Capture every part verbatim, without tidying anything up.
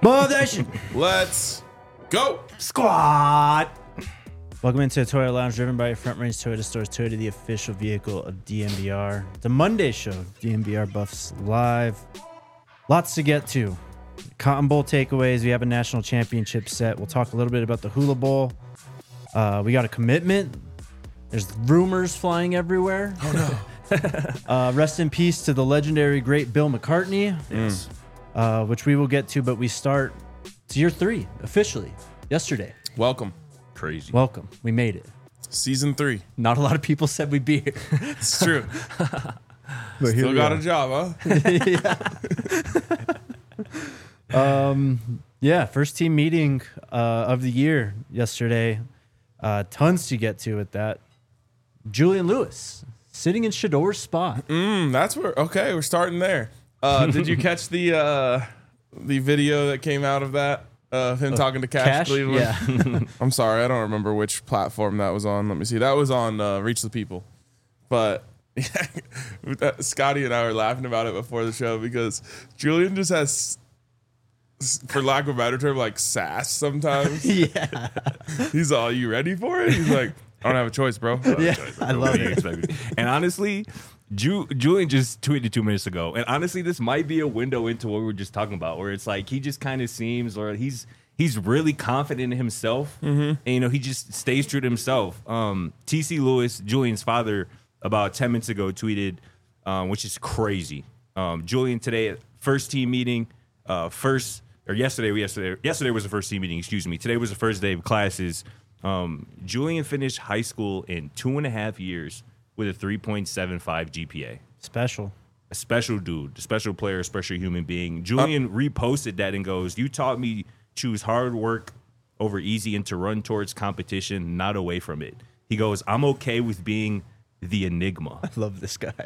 Motivation. Let's go. Squad. Welcome into the Toyota Lounge, driven by your Front Range Toyota Stores. Toyota, the official vehicle of D M V R. The Monday show, D M V R Buffs Live. Lots to get to. Cotton Bowl takeaways. We have a national championship set. We'll talk a little bit about the Hula Bowl. Uh, we got a commitment. There's rumors flying everywhere. Oh, no. uh, rest in peace to the legendary great Bill McCartney, Yes. uh, which we will get to, but we start to year three officially yesterday. Welcome. Crazy. Welcome. We made it. Season three. Not a lot of people said we'd be here. It's true. But Still got a job, huh? um, yeah, first team meeting uh, of the year yesterday. Uh, tons to get to with that. Julian Lewis sitting in Shador's spot. Mm, that's where. Okay, we're starting there. Uh, did you catch the uh, the video that came out of that? Uh, of him uh, talking to Cash, Cash? Cleveland? Yeah. I'm sorry, I don't remember which platform that was on. Let me see. That was on uh, Reach the People. But yeah, Scotty and I were laughing about it before the show because Julian just has, for lack of a better term, like sass sometimes. Yeah. He's all, you ready for it? He's like, I don't have a choice, bro. I Yeah, choice. I love it. And honestly, Ju- Julian just tweeted two minutes ago. And honestly, this might be a window into what we were just talking about, where it's like he just kind of seems, or he's he's really confident in himself. Mm-hmm. And, you know, he just stays true to himself. Um, T C Lewis, Julian's father, about ten minutes ago tweeted, um, which is crazy. Um, Julian today at first team meeting, uh, first, or yesterday, yesterday, yesterday was the first team meeting, excuse me. Today was the first day of classes. Um, Julian finished high school in two and a half years with a three point seven five G P A. Special. A special dude, a special player, a special human being. Julian uh, reposted that and goes, "You taught me choose hard work over easy and to run towards competition, not away from it." He goes, "I'm okay with being the enigma." I love this guy.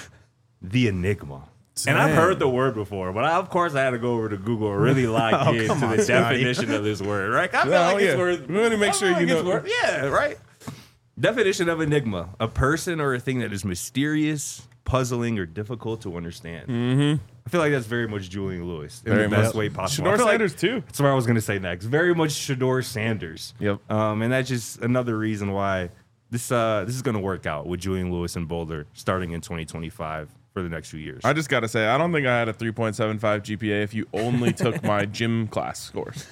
The enigma. And I've heard the word before, but I, of course I had to go over to Google and really lock Oh, into come on, the Scotty. definition of this word, right? I feel No, like yeah. it's word. We want to make I sure feel you like it's know. word- Yeah, right. Definition of enigma: a person or a thing that is mysterious, puzzling, or difficult to understand. Mm-hmm. I feel like that's very much Julian Lewis in Very the best much. way possible. Shador I feel like Sanders, too. That's what I was going to say next. Very much Shador Sanders. Yep. Um, and that's just another reason why this uh, this is going to work out with Julian Lewis and Boulder starting in twenty twenty-five for the next few years. I just got to say, I don't think I had a three point seven five G P A if you only took my gym class scores.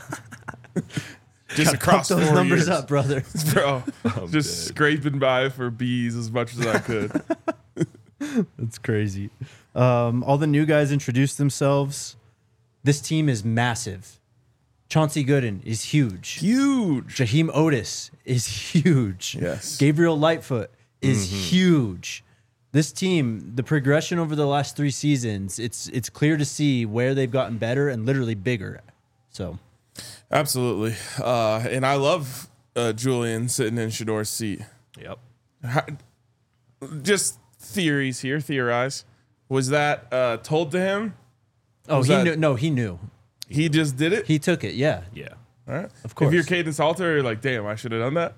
Just across Pump those four numbers years. up, brother. Bro, I'm just dead. scraping by for B's as much as I could. That's crazy. Um, all the new guys introduced themselves. This team is massive. Chauncey Gooden is huge. Huge. Jaheim Otis is huge. Yes. Gabriel Lightfoot is huge. This team, the progression over the last three seasons, it's it's clear to see where they've gotten better and literally bigger. So Absolutely. Uh, and I love uh, Julian sitting in Shador's seat. Yep. How, just theories here, theorize. Was that uh, told to him? Oh, Was he that- knew no, he knew. He just did it? He took it, yeah. Yeah. All right. Of course. If you're Caden Salter, you're like, damn, I should have done that.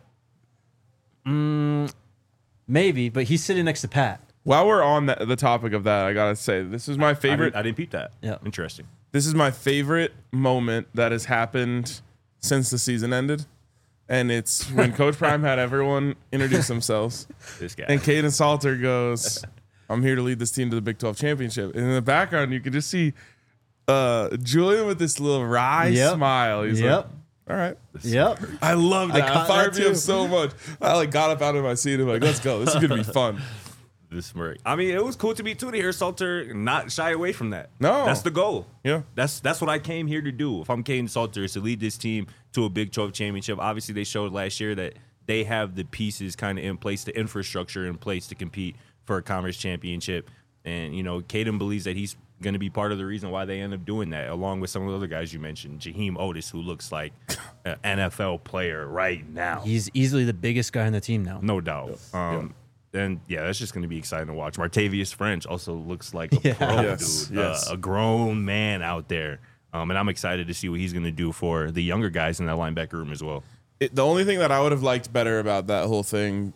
Maybe, but he's sitting next to Pat. While we're on the, the topic of that, I got to say, this is my I favorite. didn't, I didn't peep that. Yeah. Interesting. This is my favorite moment that has happened since the season ended. And it's when Coach Prime had everyone introduce themselves. This guy. And Caden Salter goes, I'm here to lead this team to the Big twelve championship. And in the background, you could just see uh, Julian with this little wry Yep. smile. He's Yep. like, all right. Yep. I love I that. caught It fired that me up too. so much. I like got up out of my seat and I'm like, let's go. This is going to be fun. This smirk. I mean, it was cool to be two to hear Salter not shy away from that. No. That's the goal. Yeah. That's that's what I came here to do. If I'm Caden Salter, is to lead this team to a Big twelve championship. Obviously, they showed last year that they have the pieces kind of in place, the infrastructure in place to compete for a conference championship. And, you know, Caden believes that he's going to be part of the reason why they end up doing that, along with some of the other guys you mentioned. Jaheim Otis, who looks like an N F L player right now. He's easily the biggest guy on the team now. No doubt. Um, And yeah, that's just going to be exciting to watch. Martavius French also looks like a Yeah. pro, Yes, dude, yes. Uh, a grown man out there. Um, and I'm excited to see what he's going to do for the younger guys in that linebacker room as well. It, the only thing that I would have liked better about that whole thing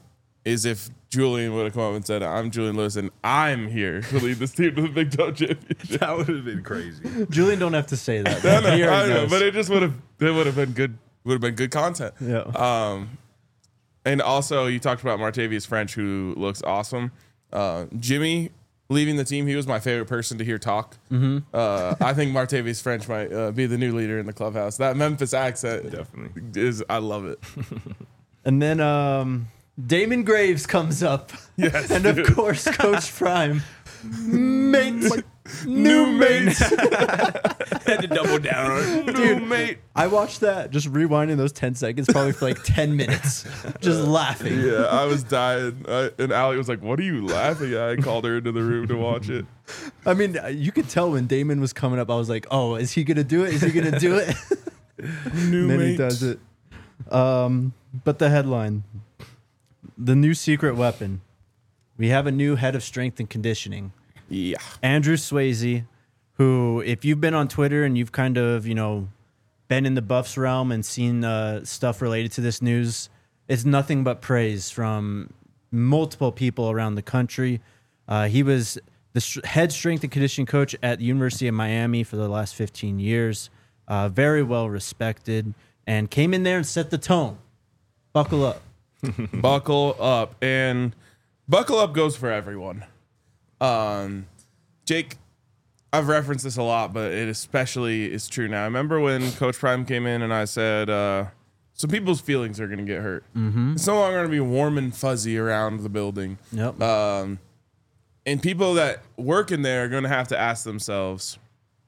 is if Julian would have come up and said, I'm Julian Lewis and I'm here to lead this team to the Big twelve championship. That would have been crazy. Julian don't have to say that. I know, He already I know, knows. but it just would have it would have been good would have been good content. Yeah. Um, and also you talked about Martavius French, who looks awesome. Uh, Jimmy leaving the team, he was my favorite person to hear talk. Mm-hmm. Uh, I think Martavius French might uh, be the new leader in the clubhouse. That Memphis accent Definitely. is I love it. And then um, Damon Graves comes up. Yes, and of dude. course, Coach Prime. Mate. New mates. Had to double down on it. Dude, mate. I watched that, just rewinding those ten seconds, probably for like ten minutes, just laughing. Yeah, I was dying. I, and Allie was like, what are you laughing at? I called her into the room to watch it. I mean, you could tell when Damon was coming up, I was like, oh, is he going to do it? Is he going to do it? New And then mate. he does it. Um, but the headline, the new secret weapon. We have a new head of strength and conditioning. Yeah. Andrew Swayze, who, if you've been on Twitter and you've kind of, you know, been in the Buffs realm and seen uh, stuff related to this news, it's nothing but praise from multiple people around the country. Uh, he was the sh- head strength and conditioning coach at the University of Miami for the last fifteen years. Uh, very well respected, and came in there and set the tone. Buckle up. Buckle up. And buckle up goes for everyone. Um, Jake, I've referenced this a lot, but it especially is true now. I remember when Coach Prime came in and I said, uh, some people's feelings are going to get hurt. Mm-hmm. It's no longer going to be warm and fuzzy around the building. Yep. Um, and people that work in there are going to have to ask themselves,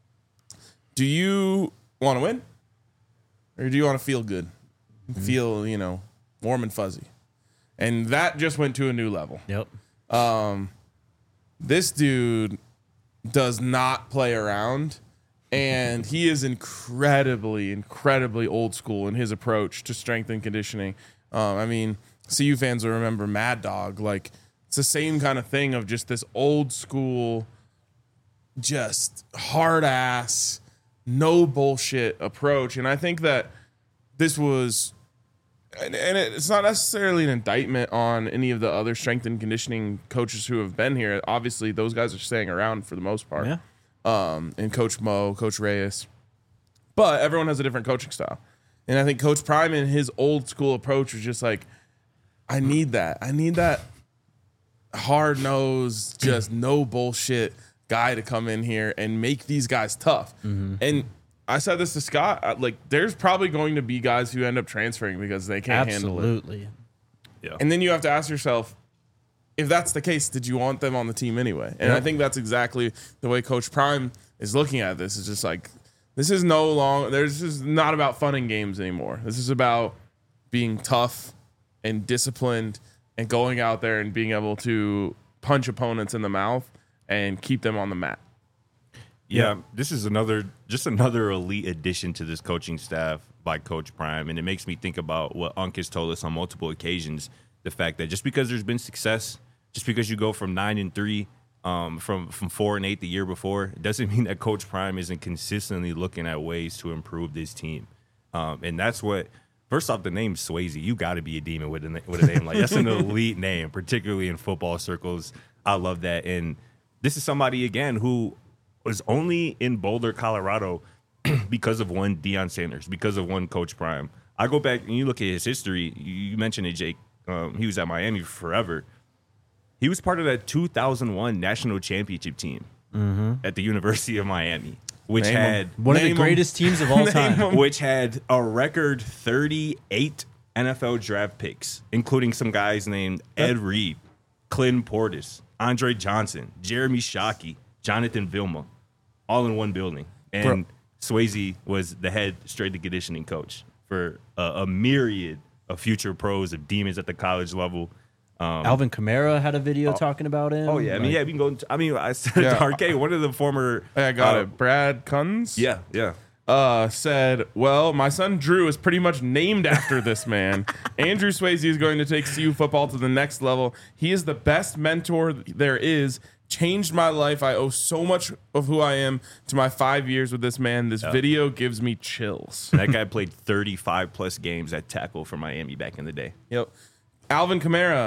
do you want to win? Or do you want to feel good? Mm-hmm. Feel, you know, warm and fuzzy. And that just went to a new level. Yep. Um, this dude does not play around, and he is incredibly, incredibly old school in his approach to strength and conditioning. Um, I mean, C U fans will remember Mad Dog. Like, it's the same kind of thing of just this old school, just hard ass, no bullshit approach. And I think that this was, and, and it's not necessarily an indictment on any of the other strength and conditioning coaches who have been here. Obviously, those guys are staying around for the most part. Yeah. Um, and Coach Mo, Coach Reyes. But everyone has a different coaching style. And I think Coach Prime in his old school approach was just like, I need that. I need that hard-nosed, just no bullshit guy to come in here and make these guys tough. Mm-hmm. And I said this to Scott, like, there's probably going to be guys who end up transferring because they can't handle it. Absolutely. Yeah. And then you have to ask yourself, if that's the case, did you want them on the team anyway? And Yep. I think that's exactly the way Coach Prime is looking at this. It's just like, this is no long, there's just not about fun and games anymore. This is about being tough and disciplined and going out there and being able to punch opponents in the mouth and keep them on the mat. Yeah, this is another just another elite addition to this coaching staff by Coach Prime, and it makes me think about what Unk has told us on multiple occasions: the fact that just because there's been success, just because you go from nine and three, um, from from four and eight the year before, it doesn't mean that Coach Prime isn't consistently looking at ways to improve this team, um, and that's what. First off, the name Swayze, you got to be a demon with a with a name like that's an elite name, particularly in football circles. I love that, and this is somebody again who was only in Boulder, Colorado, because of one Deion Sanders, because of one Coach Prime. I go back and you look at his history. You mentioned it, Jake. Um, he was at Miami forever. He was part of that two thousand one national championship team mm-hmm. at the University of Miami, which Name had him. One of Name the greatest teams of all time. which had a record thirty-eight N F L draft picks, including some guys named Ed Reed, Clinton Portis, Andre Johnson, Jeremy Shockey, Jonathan Vilma, all in one building. And Bro. Swayze was the head strength and conditioning coach for a, a myriad of future pros, of demons at the college level. Um, Alvin Kamara had a video talking about him. oh, yeah. I mean, Like, yeah, we can go. Into, I mean, I said Yeah. to Arcade, one of the former. Hey, I got uh, it. Brad Kunz? Yeah, yeah. Uh, said, well, my son Drew is pretty much named after this man. Andrew Swayze is going to take C U football to the next level. He is the best mentor there is. Changed my life. I owe so much of who I am to my five years with this man. This video gives me chills. That guy played thirty-five plus games at tackle for Miami back in the day. Yep. Alvin Kamara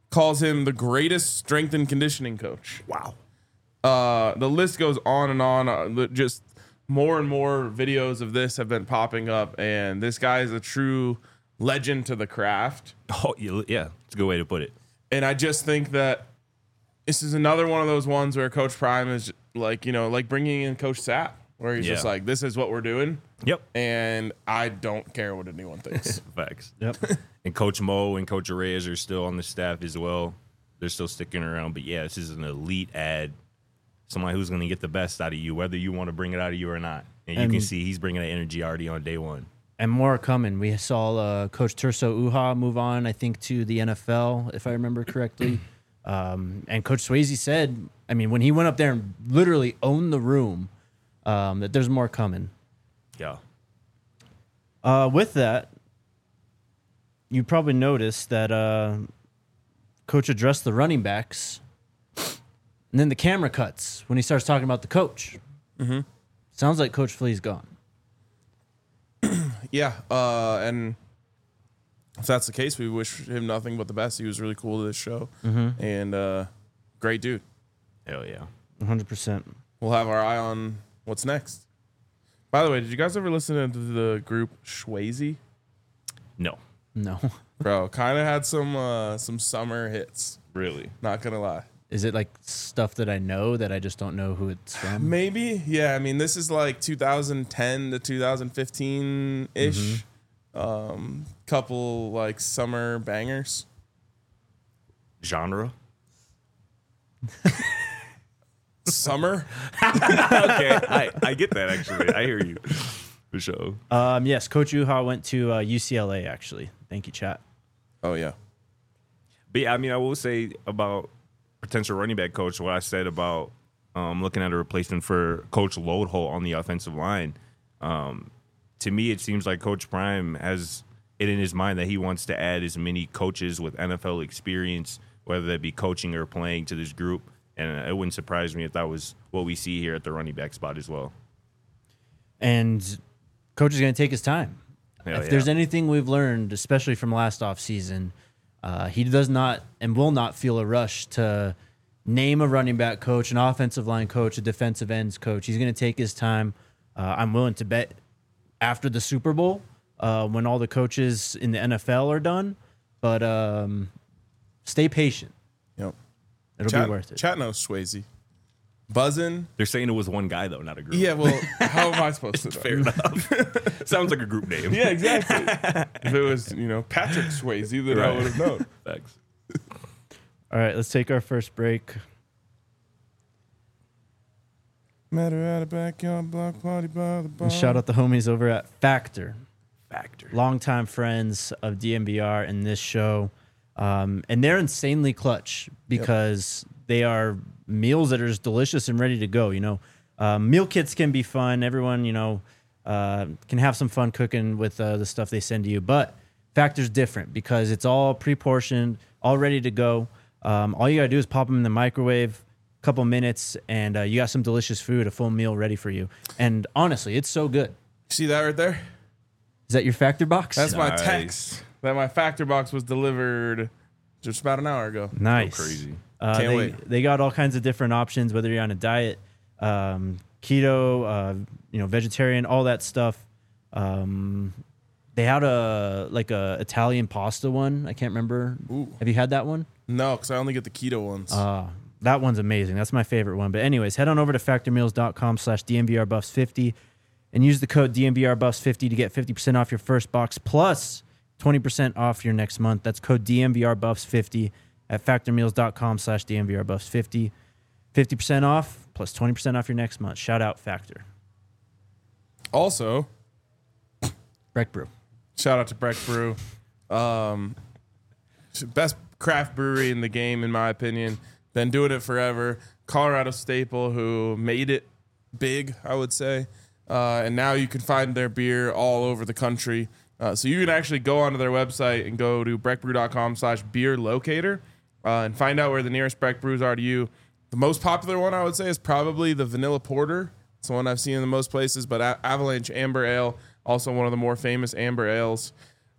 calls him the greatest strength and conditioning coach. Wow. Uh, the list goes on and on. Uh, just more and more videos of this have been popping up, and this guy is a true legend to the craft. Oh, yeah. It's a good way to put it. And I just think that this is another one of those ones where Coach Prime is like, you know, like bringing in Coach Sapp, where he's Yeah. just like, this is what we're doing. Yep. And I don't care what anyone thinks. Facts. Yep. And Coach Mo and Coach Reyes are still on the staff as well. They're still sticking around. But yeah, this is an elite ad. Somebody who's going to get the best out of you, whether you want to bring it out of you or not. And you And- can see he's bringing that energy already on day one. And more are coming. We saw uh, Coach Terso Uha move on, I think, to the N F L, if I remember correctly. Um, and Coach Swayze said, I mean, when he went up there and literally owned the room, um, that there's more coming. Yeah. Uh, with that, you probably noticed that uh, Coach addressed the running backs, and then the camera cuts when he starts talking about the coach. Mm-hmm. Sounds like Coach Flea's gone. Yeah, uh, and if that's the case, we wish him nothing but the best. He was really cool to this show, Mm-hmm. and uh, great dude. Hell yeah. one hundred percent. We'll have our eye on what's next. By the way, did you guys ever listen to the group Swayze? No. No. Bro, kind of had some uh, some summer hits. Really? Not gonna lie. Is it like stuff that I know that I just don't know who it's from? Maybe, yeah. I mean, this is like two thousand ten to two thousand fifteen ish. Um, couple like summer bangers. Genre? Summer. Okay. I, I get that, actually. I hear you. For sure. Um, yes, Coach Uha went to uh, U C L A, actually. Thank you, chat. Oh yeah. But yeah, I mean, I will say about potential running back coach, what I said about um, looking at a replacement for Coach Loadholt on the offensive line. Um, to me, it seems like Coach Prime has it in his mind that he wants to add as many coaches with N F L experience, whether that be coaching or playing, to this group. And it wouldn't surprise me if that was what we see here at the running back spot as well. And Coach is going to take his time. Hell if yeah. there's anything we've learned, especially from last offseason, uh, he does not and will not feel a rush to name a running back coach, an offensive line coach, a defensive ends coach. He's going to take his time. Uh, I'm willing to bet after the Super Bowl, uh, when all the coaches in the N F L are done. But um, stay patient. Yep. It'll Chat, be worth it. Chat knows Swayze. Buzzing. They're saying it was one guy, though, not a group. Yeah, well, how am I supposed to know? Fair enough. Sounds like a group name. Yeah, exactly. If it was, you know, Patrick Swayze, then I Right. would have known. Thanks. All right, let's take our first break. Met her at a backyard block party by the bar. And shout out the homies over at Factor. Factor. Longtime friends of D M V R and this show. Um, and they're insanely clutch because they are meals that are just delicious and ready to go. You know, uh, meal kits can be fun. Everyone, you know, uh, can have some fun cooking with uh, the stuff they send to you. But Factor's different because it's all pre-portioned, all ready to go. Um, all you got to do is pop them in the microwave, a couple minutes, and uh, you got some delicious food, a full meal ready for you. And honestly, it's so good. See that right there? Is that your Factor box? That's my Nice. text. That my factor box was delivered just about an hour ago. nice. So crazy. Uh, Can't they, wait. They got all kinds of different options, whether you're on a diet, um, keto, uh, you know, vegetarian, all that stuff. Um, they had a like a Italian pasta one. I can't remember. Ooh. Have you had that one? No, because I only get the keto ones. Uh, that one's amazing. That's my favorite one. But anyways, head on over to factormeals.com slash DMVRbuffs50 and use the code D M V R buffs fifty to get fifty percent off your first box plus twenty percent off your next month. That's code D M V R buffs fifty at factormeals.com slash DMVRbuffs50. fifty percent off plus twenty percent off your next month. Shout out Factor. Also, Breck Brew. shout out to Breck Brew. Um, best craft brewery in the game, in my opinion. Been doing it forever. Colorado staple who made it big, I would say. Uh, and now you can find their beer all over the country. Uh, so you can actually go onto their website and go to breckbrew.com slash beer locator uh, and find out where the nearest Breck brews are to you. The most popular one, I would say, is probably the Vanilla Porter. It's the one I've seen in the most places, but A- Avalanche Amber Ale, also one of the more famous amber ales.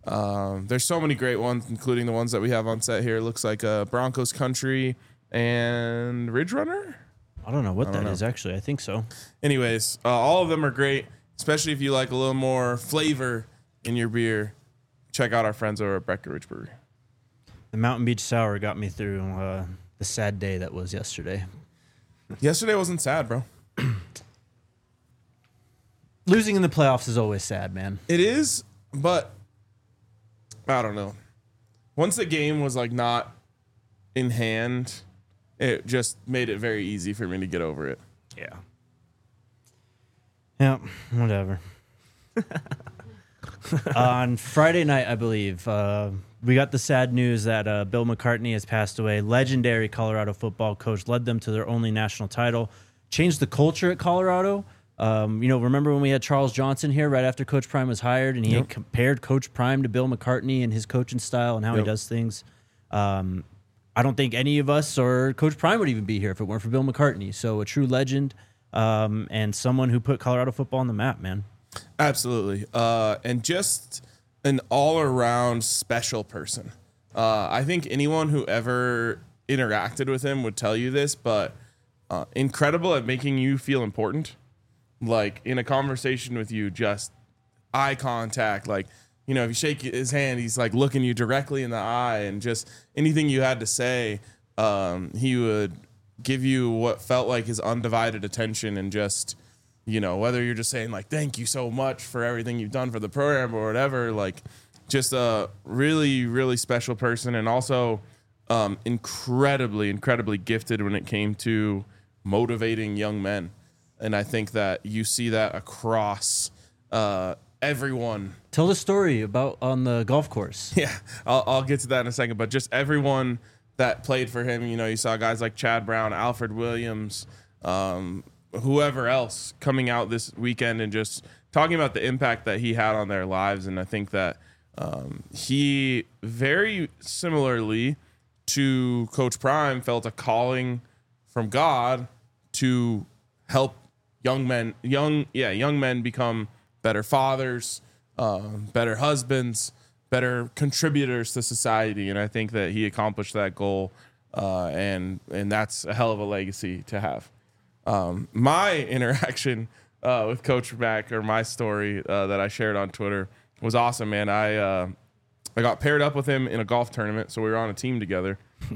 Um, there's so many great ones, including the ones that we have on set here. It looks like uh, Broncos Country and Ridge Runner. I don't know what that know. is actually. I think so. Anyways, uh, all of them are great, especially if you like a little more flavor in your beer. Check out our friends over at Breckenridge Brewery. The Mountain Beach Sour got me through uh, the sad day that was yesterday. Yesterday wasn't sad, bro. Losing in the playoffs is always sad, man. It is, but I don't know. Once the game was like not in hand, it just made it very easy for me to get over it. Yeah. Yeah, whatever. On Friday night, I believe, uh, we got the sad news that uh, Bill McCartney has passed away. Legendary Colorado football coach, led them to their only national title, changed the culture at Colorado. Um, you know, remember when we had Charles Johnson here right after Coach Prime was hired, and he Yep. had compared Coach Prime to Bill McCartney and his coaching style and how Yep. he does things. Um, I don't think any of us or Coach Prime would even be here if it weren't for Bill McCartney. So a true legend um, and someone who put Colorado football on the map, man. Absolutely. Uh, and just an all-around special person. Uh, I think anyone who ever interacted with him would tell you this, but uh, incredible at making you feel important. Like, in a conversation with you, just eye contact. Like, you know, if you shake his hand, he's, like, looking you directly in the eye. And just anything you had to say, um, he would give you what felt like his undivided attention and just... You know, whether you're just saying like, thank you so much for everything you've done for the program or whatever, like just a really, really special person. And also um, incredibly, incredibly gifted when it came to motivating young men. And I think that you see that across uh, everyone. Tell the story about on the golf course. Yeah, I'll, I'll get to that in a second. But just everyone that played for him, you know, you saw guys like Chad Brown, Alfred Williams, um, whoever else coming out this weekend and just talking about the impact that he had on their lives. And I think that um, he very similarly to Coach Prime felt a calling from God to help young men, young, yeah, young men become better fathers, um, better husbands, better contributors to society. And I think that he accomplished that goal. Uh, and, and that's a hell of a legacy to have. Um, my interaction uh, with Coach Mac, or my story uh, that I shared on Twitter, was awesome, man. I uh, I got paired up with him in a golf tournament, so we were on a team together.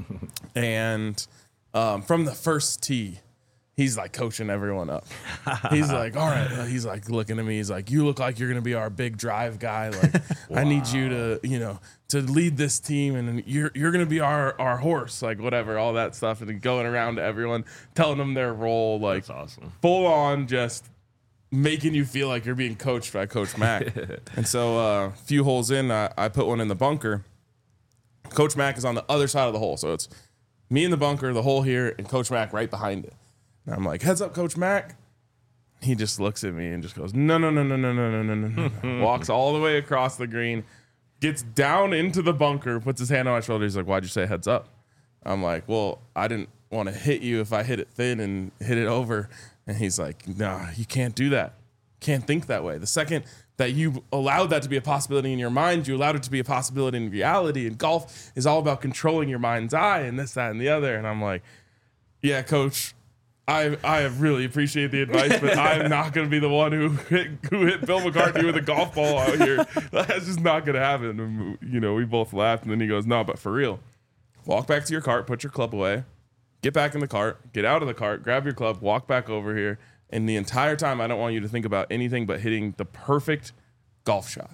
And um, from the first tee, he's like coaching everyone up. He's like, all right. Uh, he's like looking at me. He's like, you look like you're going to be our big drive guy. Like, wow. I need you to, you know, to lead this team, and you're you're going to be our, our horse, like whatever, all that stuff. And going around to everyone, telling them their role, like That's awesome. Full on just making you feel like you're being coached by Coach Mac. And so a uh, few holes in, I, I put one in the bunker. Coach Mac is on the other side of the hole. So it's me in the bunker, the hole here, and Coach Mac right behind it. And I'm like, heads up, Coach Mac. He just looks at me and just goes, no, no, no, no, no, no, no, no, no, no. Walks all the way across the green, gets down into the bunker, puts his hand on my shoulder. He's like, why'd you say heads up? I'm like, well, I didn't want to hit you if I hit it thin and hit it over. And he's like, nah, you can't do that. Can't think that way. The second that you allowed that to be a possibility in your mind, you allowed it to be a possibility in reality. And golf is all about controlling your mind's eye and this, that, and the other. And I'm like, yeah, Coach, I I really appreciate the advice, but I'm not going to be the one who hit, who hit Bill McCartney with a golf ball out here. That's just not going to happen. And, you know, we both laughed, and then he goes, no, but for real, walk back to your cart, put your club away, get back in the cart, get out of the cart, grab your club, walk back over here. And the entire time, I don't want you to think about anything but hitting the perfect golf shot.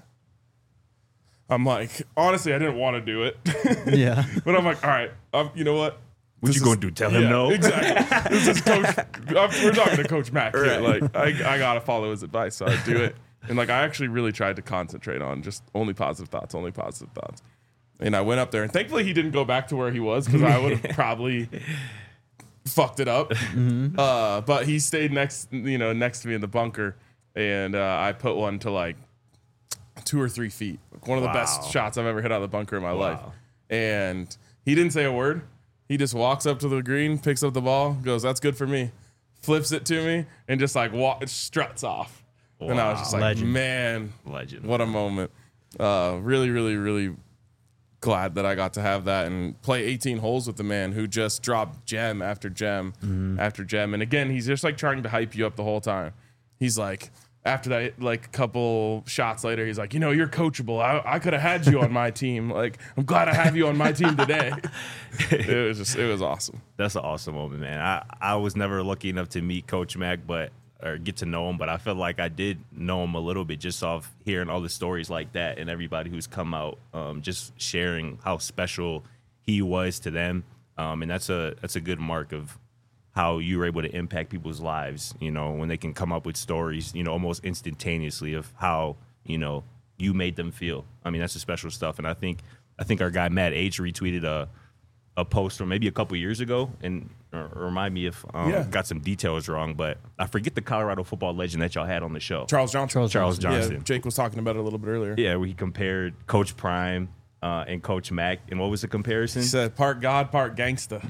I'm like, honestly, I didn't want to do it. Yeah. But I'm like, all right, um, you know what? What This you is- gonna do? Tell him yeah, no? Exactly. This is Coach. I'm, we're talking to Coach Mac here. Right. Like, I, I gotta follow his advice, so I do it. And like, I actually really tried to concentrate on just only positive thoughts, only positive thoughts. And I went up there, and thankfully he didn't go back to where he was, because I would have probably fucked it up. Mm-hmm. Uh, but he stayed next, you know, next to me in the bunker, and uh, I put one to like two or three feet. Like one of Wow. the best shots I've ever hit out of the bunker in my Wow. life. And he didn't say a word. He just walks up to the green, picks up the ball, goes, that's good for me, flips it to me, and just like walk, struts off. And I was just like, Legend. man, Legend. what a moment. uh, really, really, really glad that I got to have that and play eighteen holes with the man who just dropped gem after gem mm-hmm. after gem. And again, he's just like trying to hype you up the whole time. He's like, after that, like a couple shots later, he's like, you know, you're coachable. I, I could have had you on my team. Like, I'm glad I have you on my team today. It was just, it was awesome. That's an awesome moment, man. I, I was never lucky enough to meet Coach Mack, but or get to know him, but I feel like I did know him a little bit just off hearing all the stories like that and everybody who's come out, um, just sharing how special he was to them. Um, and that's a that's a good mark of how you were able to impact people's lives, you know, when they can come up with stories, you know, almost instantaneously of how, you know, you made them feel. I mean, that's the special stuff. And I think I think our guy Matt H retweeted a a post from maybe a couple years ago, and uh, remind me if um, yeah. got some details wrong, but I forget the Colorado football legend that y'all had on the show. Charles Johnson. Charles, Charles Johnson. Yeah, Jake was talking about it a little bit earlier. Yeah, where he compared Coach Prime uh, and Coach Mack. And what was the comparison? He said part God, part gangsta.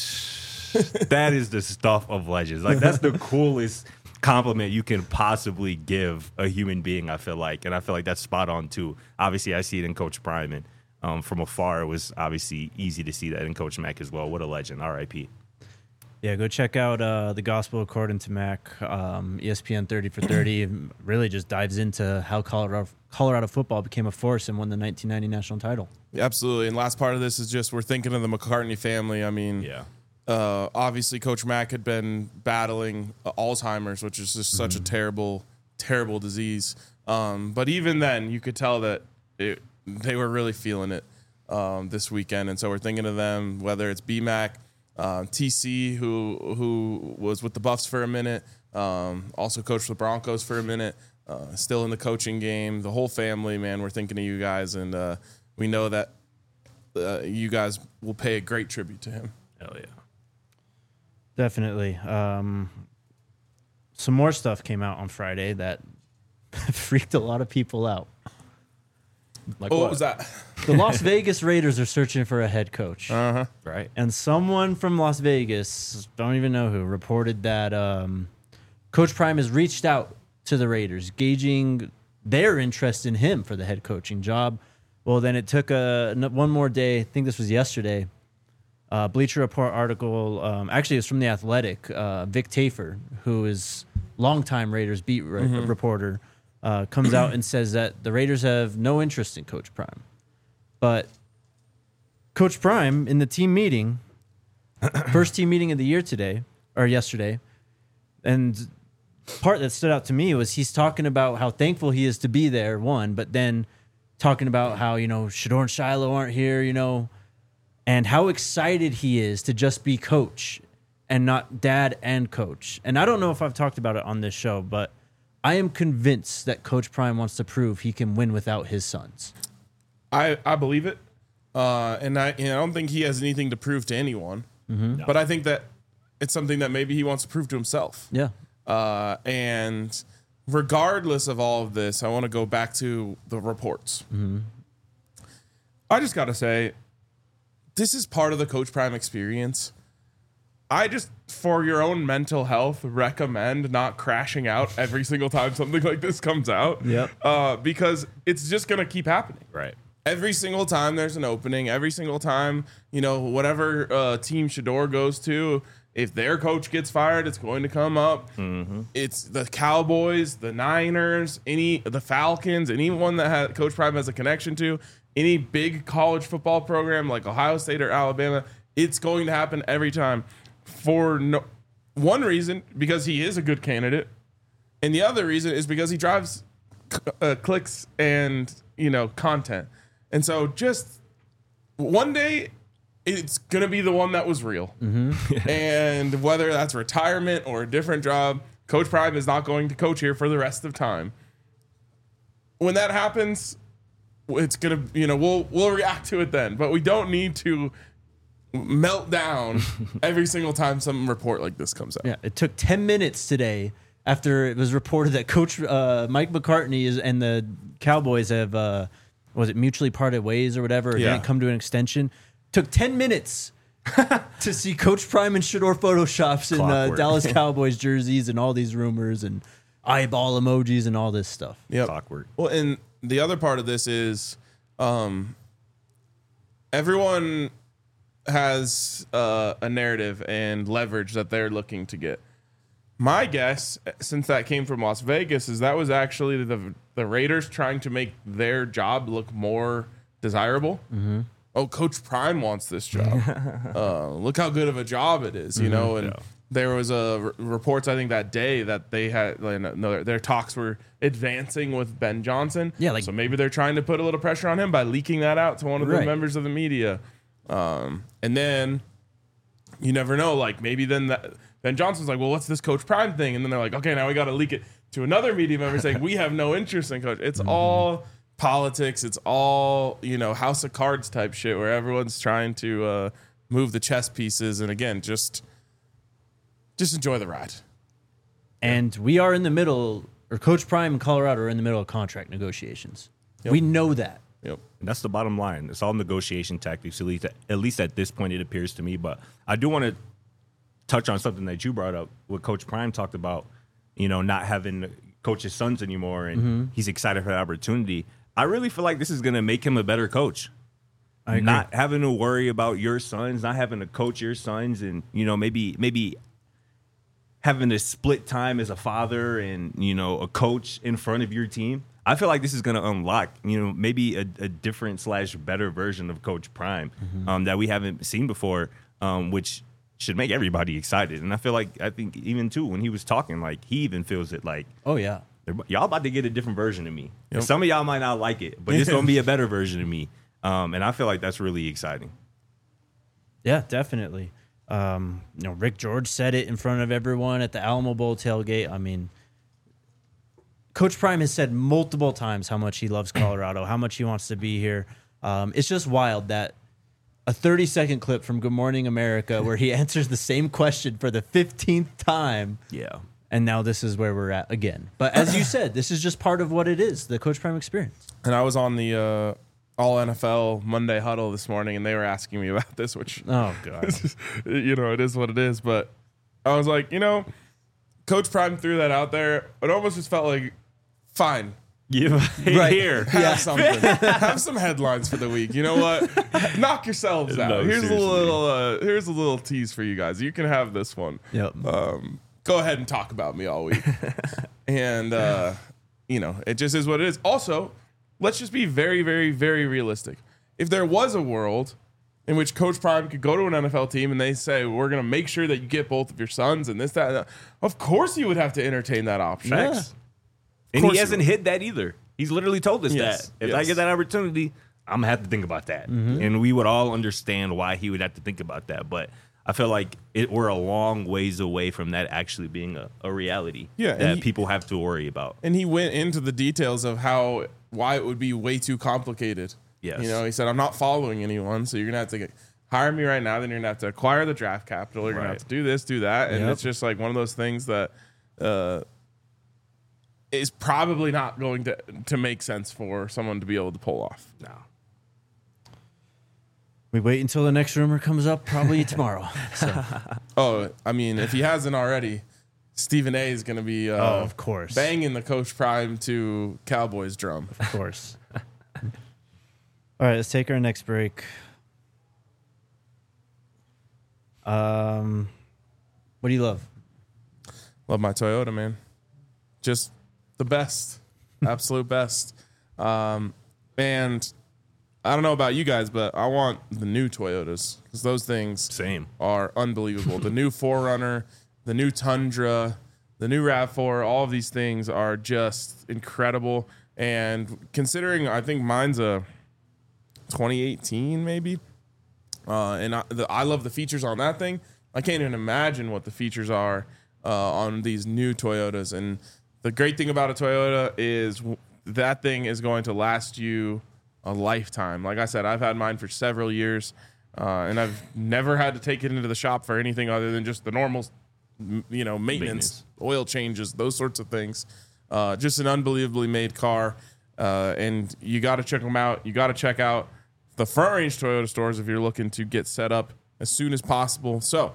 Yep. That is the stuff of legends. Like, that's the coolest compliment you can possibly give a human being, I feel like. And I feel like that's spot on, too. Obviously, I see it in Coach Prime, and um, from afar, it was obviously easy to see that in Coach Mack as well. What a legend. R I P Yeah, go check out uh, The Gospel According to Mack. Um, E S P N thirty for thirty really just dives into how Colorado, Colorado football became a force and won the nineteen ninety national title. Yeah, absolutely. And last part of this is just we're thinking of the McCartney family. I mean, Yeah. Uh, obviously, Coach Mack had been battling uh, Alzheimer's, which is just such mm-hmm. a terrible, terrible disease. Um, but even then, you could tell that it, they were really feeling it um, this weekend. And so we're thinking of them, whether it's B-Mac, uh, T C, who who was with the Buffs for a minute, um, also coached the Broncos for a minute, uh, still in the coaching game. The whole family, man, we're thinking of you guys. And uh, we know that uh, you guys will pay a great tribute to him. Hell yeah. Definitely. Um, some more stuff came out on Friday that freaked a lot of people out. Like oh, what? What was that? The Las Vegas Raiders are searching for a head coach. Uh-huh. Right. And someone from Las Vegas, don't even know who, reported that um, Coach Prime has reached out to the Raiders, gauging their interest in him for the head coaching job. Well, then it took a, one more day. I think this was yesterday. Uh, Bleacher Report article, um, actually it's from The Athletic. Uh, Vic Tafer, who is longtime Raiders beat re- mm-hmm. reporter, uh, comes out and says that the Raiders have no interest in Coach Prime. But Coach Prime, in the team meeting, first team meeting of the year today, or yesterday, and part that stood out to me was he's talking about how thankful he is to be there, one, but then talking about how, you know, Shedeur and Shiloh aren't here, you know, and how excited he is to just be coach and not dad and coach. And I don't know if I've talked about it on this show, but I am convinced that Coach Prime wants to prove he can win without his sons. I, I believe it. Uh, and I, you know, I don't think he has anything to prove to anyone. Mm-hmm. No. But I think that it's something that maybe he wants to prove to himself. Yeah. Uh, and regardless of all of this, I want to go back to the reports. Mm-hmm. I just got to say, this is part of the Coach Prime experience. I just, for your own mental health, recommend not crashing out every single time something like this comes out. Yep. Uh, because it's just going to keep happening. Right. Every single time there's an opening, every single time, you know, whatever uh, team Shedeur goes to, if their coach gets fired, it's going to come up. Mm-hmm. It's the Cowboys, the Niners, any the Falcons, anyone that has, Coach Prime has a connection to, any big college football program like Ohio State or Alabama, it's going to happen every time. For no, one reason, because he is a good candidate, and the other reason is because he drives uh, clicks and, you know, content. And so just one day, it's going to be the one that was real. Mm-hmm. And whether that's retirement or a different job, Coach Prime is not going to coach here for the rest of time. When that happens, it's going to, you know, we'll we'll react to it then. But we don't need to melt down every single time some report like this comes out. Yeah, it took ten minutes today after it was reported that Coach uh, Mike McCartney is and the Cowboys have, uh, was it mutually parted ways or whatever? It Yeah. didn't come to an extension. Took ten minutes to see Coach Prime and Shedeur photoshops in uh, Clockwork. Dallas Cowboys jerseys and all these rumors. And eyeball emojis and all this stuff. Yep. It's awkward. Well, and the other part of this is um, everyone has uh, a narrative and leverage that they're looking to get. My guess, since that came from Las Vegas, is that was actually the the Raiders trying to make their job look more desirable. Mm-hmm. Oh, Coach Prime wants this job. uh, look how good of a job it is, you mm-hmm. know. And yeah. there was a r- reports I think that day that they had like, no, their talks were advancing with Ben Johnson. Yeah, like, so maybe they're trying to put a little pressure on him by leaking that out to one of the right. members of the media. Um, and then you never know, like maybe then that, Ben Johnson's like, well, what's this Coach Prime thing? And then they're like, okay, now we got to leak it to another media member saying we have no interest in Coach. It's mm-hmm. all politics. It's all, you know, House of Cards type shit where everyone's trying to uh, move the chess pieces. And again, just just enjoy the ride. And we are in the middle, or Coach Prime and Colorado are in the middle of contract negotiations. Yep. We know that. Yep. And that's the bottom line. It's all negotiation tactics, at least, at least at this point, it appears to me. But I do want to touch on something that you brought up, what Coach Prime talked about, you know, not having coach his sons anymore, and mm-hmm. he's excited for the opportunity. I really feel like this is going to make him a better coach. I agree. Not having to worry about your sons, not having to coach your sons, and, you know, maybe maybe having to split time as a father and, you know, a coach in front of your team. I feel like this is going to unlock, you know, maybe a, a different slash better version of Coach Prime mm-hmm. um, that we haven't seen before, um, which should make everybody excited. And I feel like, I think even too, when he was talking, like he even feels it like, oh yeah, y'all about to get a different version of me. Yep. Some of y'all might not like it, but it's going to be a better version of me. Um, and I feel like that's really exciting. Yeah, definitely. Um, you know, Rick George said it in front of everyone at the Alamo Bowl tailgate. I mean, Coach Prime has said multiple times how much he loves Colorado, how much he wants to be here. Um, it's just wild that a thirty-second clip from Good Morning America where he answers the same question for the fifteenth time. Yeah. And now this is where we're at again. But as you said, this is just part of what it is, the Coach Prime experience. And I was on the uh, All N F L Monday huddle this morning, and they were asking me about this, which, oh, God. you know, it is what it is. But I was like, you know, Coach Prime threw that out there. It almost just felt like, fine. Yeah, right here. Have yeah. something. Have some headlines for the week. You know what? Knock yourselves out. No, here's seriously. a little. Uh, here's a little tease for you guys. You can have this one. Yep. Um, go ahead and talk about me all week. and uh, you know, it just is what it is. Also, let's just be very, very, very realistic. If there was a world in which Coach Prime could go to an N F L team and they say, we're going to make sure that you get both of your sons and this, that, and that, of course you would have to entertain that option. Facts. And he hasn't hit that either. He's literally told us Yes, that. If yes. I get that opportunity, I'm going to have to think about that. Mm-hmm. And we would all understand why he would have to think about that. But I feel like it, we're a long ways away from that actually being a, a reality Yeah, that and he- people have to worry about. And he went into the details of how why it would be way too complicated. Yes. You know, he said, I'm not following anyone, so you're gonna have to get, hire me right now, then you're gonna have to acquire the draft capital, you're gonna Right. have to do this, do that. And Yep. it's just like one of those things that uh is probably not going to to make sense for someone to be able to pull off. No. We wait until the next rumor comes up, probably tomorrow. So. Oh, I mean, if he hasn't already, Stephen A is gonna be uh, Oh, of course. banging the Coach Prime to Cowboys drum. Of course. All right, let's take our next break. Um, what do you love? Love my Toyota, man. Just the best. Absolute best. Um, and I don't know about you guys, but I want the new Toyotas because those things Same. are unbelievable. The new four runner, the new Tundra, the new RAV four, all of these things are just incredible. And considering I think mine's a twenty eighteen maybe, uh, and I, the, I love the features on that thing. I can't even imagine what the features are uh, on these new Toyotas. And the great thing about a Toyota is w- that thing is going to last you a lifetime. Like I said, I've had mine for several years, uh, and I've never had to take it into the shop for anything other than just the normal, m- you know, maintenance, Maintenance. oil changes, those sorts of things. Uh, just an unbelievably made car, uh, and you got to check them out. You got to check out the Front Range Toyota stores if you're looking to get set up as soon as possible. So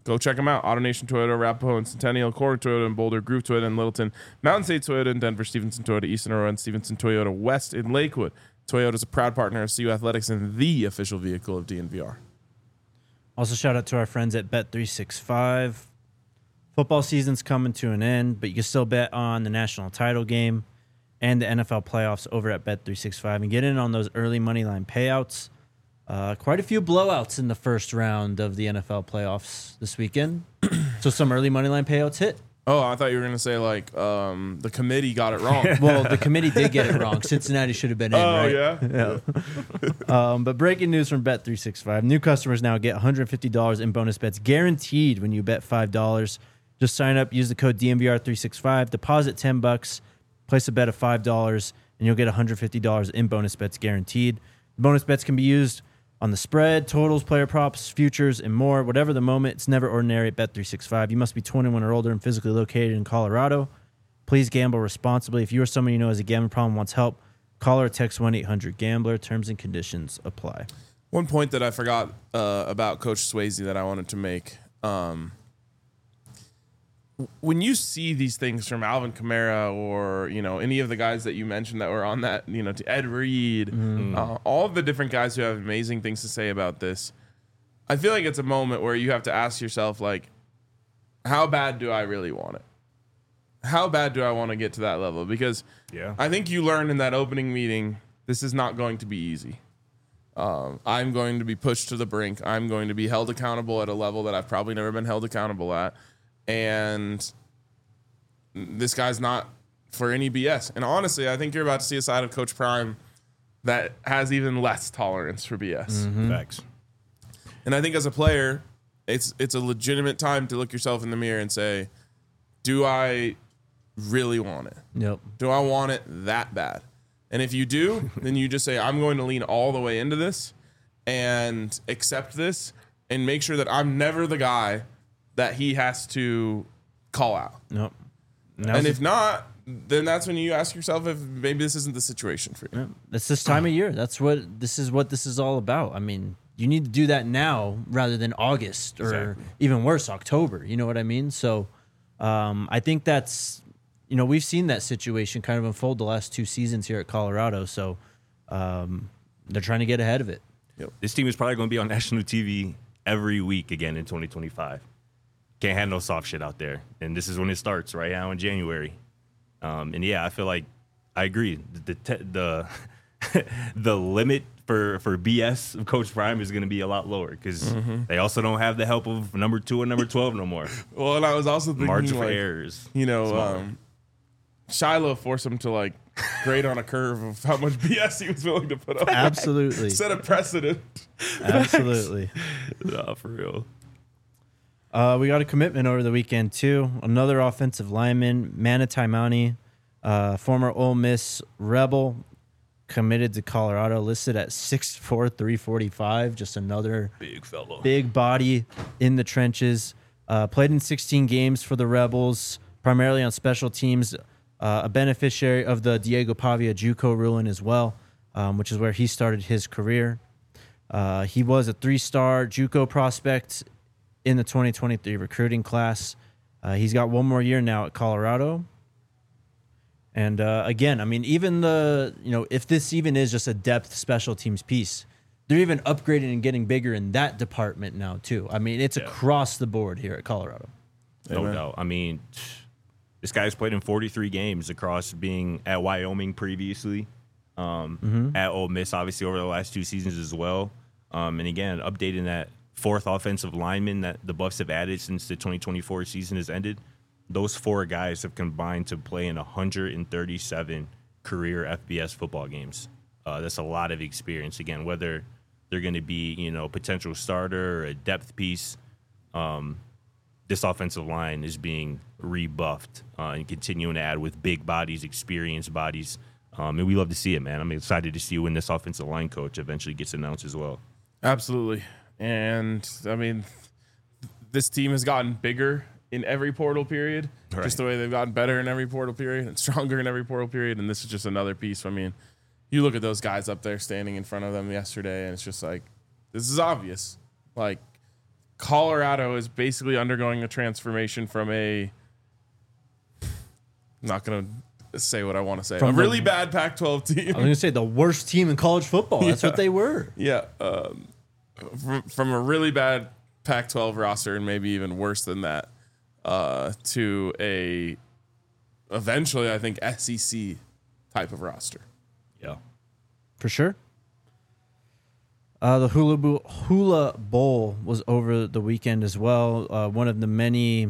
go check them out. AutoNation Toyota, Arapahoe and Centennial, Core Toyota and Boulder, Groove Toyota in Littleton, Mountain State Toyota in Denver, Stevenson Toyota, Eastern Aurora, and Stevenson Toyota West in Lakewood. Toyota is a proud partner of C U Athletics and the official vehicle of D N V R. Also, shout out to our friends at Bet three sixty-five. Football season's coming to an end, but you can still bet on the national title game and the N F L playoffs over at Bet three sixty-five and get in on those early money line payouts. Uh, quite a few blowouts in the first round of the N F L playoffs this weekend. So some early money line payouts hit. Oh, I thought you were going to say, like, um, the committee got it wrong. Well, the committee did get it wrong. Cincinnati should have been in, Oh, right? yeah? Yeah. um, but breaking news from Bet three sixty-five. New customers now get one hundred fifty dollars in bonus bets guaranteed when you bet five dollars. Just sign up, use the code D N V R three sixty-five, deposit ten bucks, place a bet of five dollars, and you'll get one hundred fifty dollars in bonus bets guaranteed. Bonus bets can be used on the spread, totals, player props, futures, and more. Whatever the moment, it's never ordinary at Bet three sixty-five. You must be twenty-one or older and physically located in Colorado. Please gamble responsibly. If you or someone you know has a gambling problem wants help, call or text one eight hundred gambler. Terms and conditions apply. One point that I forgot uh, about Coach Swayze that I wanted to make. Um, when you see these things from Alvin Kamara or, you know, any of the guys that you mentioned that were on that, you know, to Ed Reed, mm. uh, all of the different guys who have amazing things to say about this, I feel like it's a moment where you have to ask yourself, like, how bad do I really want it? How bad do I want to get to that level? Because yeah. I think you learned in that opening meeting, this is not going to be easy. Um, I'm going to be pushed to the brink. I'm going to be held accountable at a level that I've probably never been held accountable at. And this guy's not for any B S. And honestly, I think you're about to see a side of Coach Prime that has even less tolerance for B S. Mm-hmm. Facts. And I think as a player, it's it's a legitimate time to look yourself in the mirror and say, do I really want it? Yep. Do I want it that bad? And if you do, then you just say, I'm going to lean all the way into this and accept this and make sure that I'm never the guy that he has to call out. Nope. And if not, then that's when you ask yourself if maybe this isn't the situation for you. Yep. It's this time of year. That's what this is what this is all about. I mean, you need to do that now rather than August or Exactly. even worse, October. You know what I mean? So um, I think that's, you know, we've seen that situation kind of unfold the last two seasons here at Colorado. So um, they're trying to get ahead of it. Yep. This team is probably going to be on national T V every week again in twenty twenty-five. Can't have no soft shit out there. And this is when it starts, right now in January. Um, and yeah, I feel like I agree. The the the, the limit for, for B S of Coach Prime is going to be a lot lower because mm-hmm. they also don't have the help of number two and number twelve no more. Well, and I was also thinking, margin for like, errors. You know, um, Shiloh forced him to, like, grade on a curve of how much B S he was willing to put up. Absolutely. Set a precedent. Absolutely. Nah, for real. Uh, we got a commitment over the weekend, too. Another offensive lineman, Mana Taimani, uh, former Ole Miss Rebel, committed to Colorado, listed at six four, three forty-five. Just another big fellow. Big body in the trenches. Uh, played in sixteen games for the Rebels, primarily on special teams. Uh, a beneficiary of the Diego Pavia JUCO ruling as well, um, which is where he started his career. Uh, he was a three-star JUCO prospect in the twenty twenty-three recruiting class. Uh, he's got one more year now at Colorado. And uh, again, I mean, even the, you know, if this even is just a depth special teams piece, they're even upgrading and getting bigger in that department now, too. I mean, it's yeah. across the board here at Colorado. No Amen. doubt. I mean, this guy's played in forty-three games across being at Wyoming previously, um, mm-hmm. at Ole Miss, obviously, over the last two seasons as well. Um, and again, updating that fourth offensive lineman that the Buffs have added since the twenty twenty-four season has ended. Those four guys have combined to play in one hundred thirty-seven career F B S football games. Uh, that's a lot of experience. Again, whether they're going to be, you know, potential starter or a depth piece, um, this offensive line is being rebuffed uh, and continuing to add with big bodies, experienced bodies. Um, and we love to see it, man. I'm excited to see when this offensive line coach eventually gets announced as well. Absolutely. And, I mean, this team has gotten bigger in every portal period, right. Just the way they've gotten better in every portal period and stronger in every portal period. And this is just another piece. I mean, you look at those guys up there standing in front of them yesterday, and it's just like, this is obvious. Like, Colorado is basically undergoing a transformation from a. I'm not gonna say what I want to say. From a the- really bad Pac twelve team. I was gonna say the worst team in college football. That's Yeah. what they were. Yeah, um, from, from a really bad Pac twelve roster, and maybe even worse than that, uh, to a eventually, I think, S E C type of roster. Yeah. For sure. Uh, the Hula, Bo- Hula Bowl was over the weekend as well. Uh, one of the many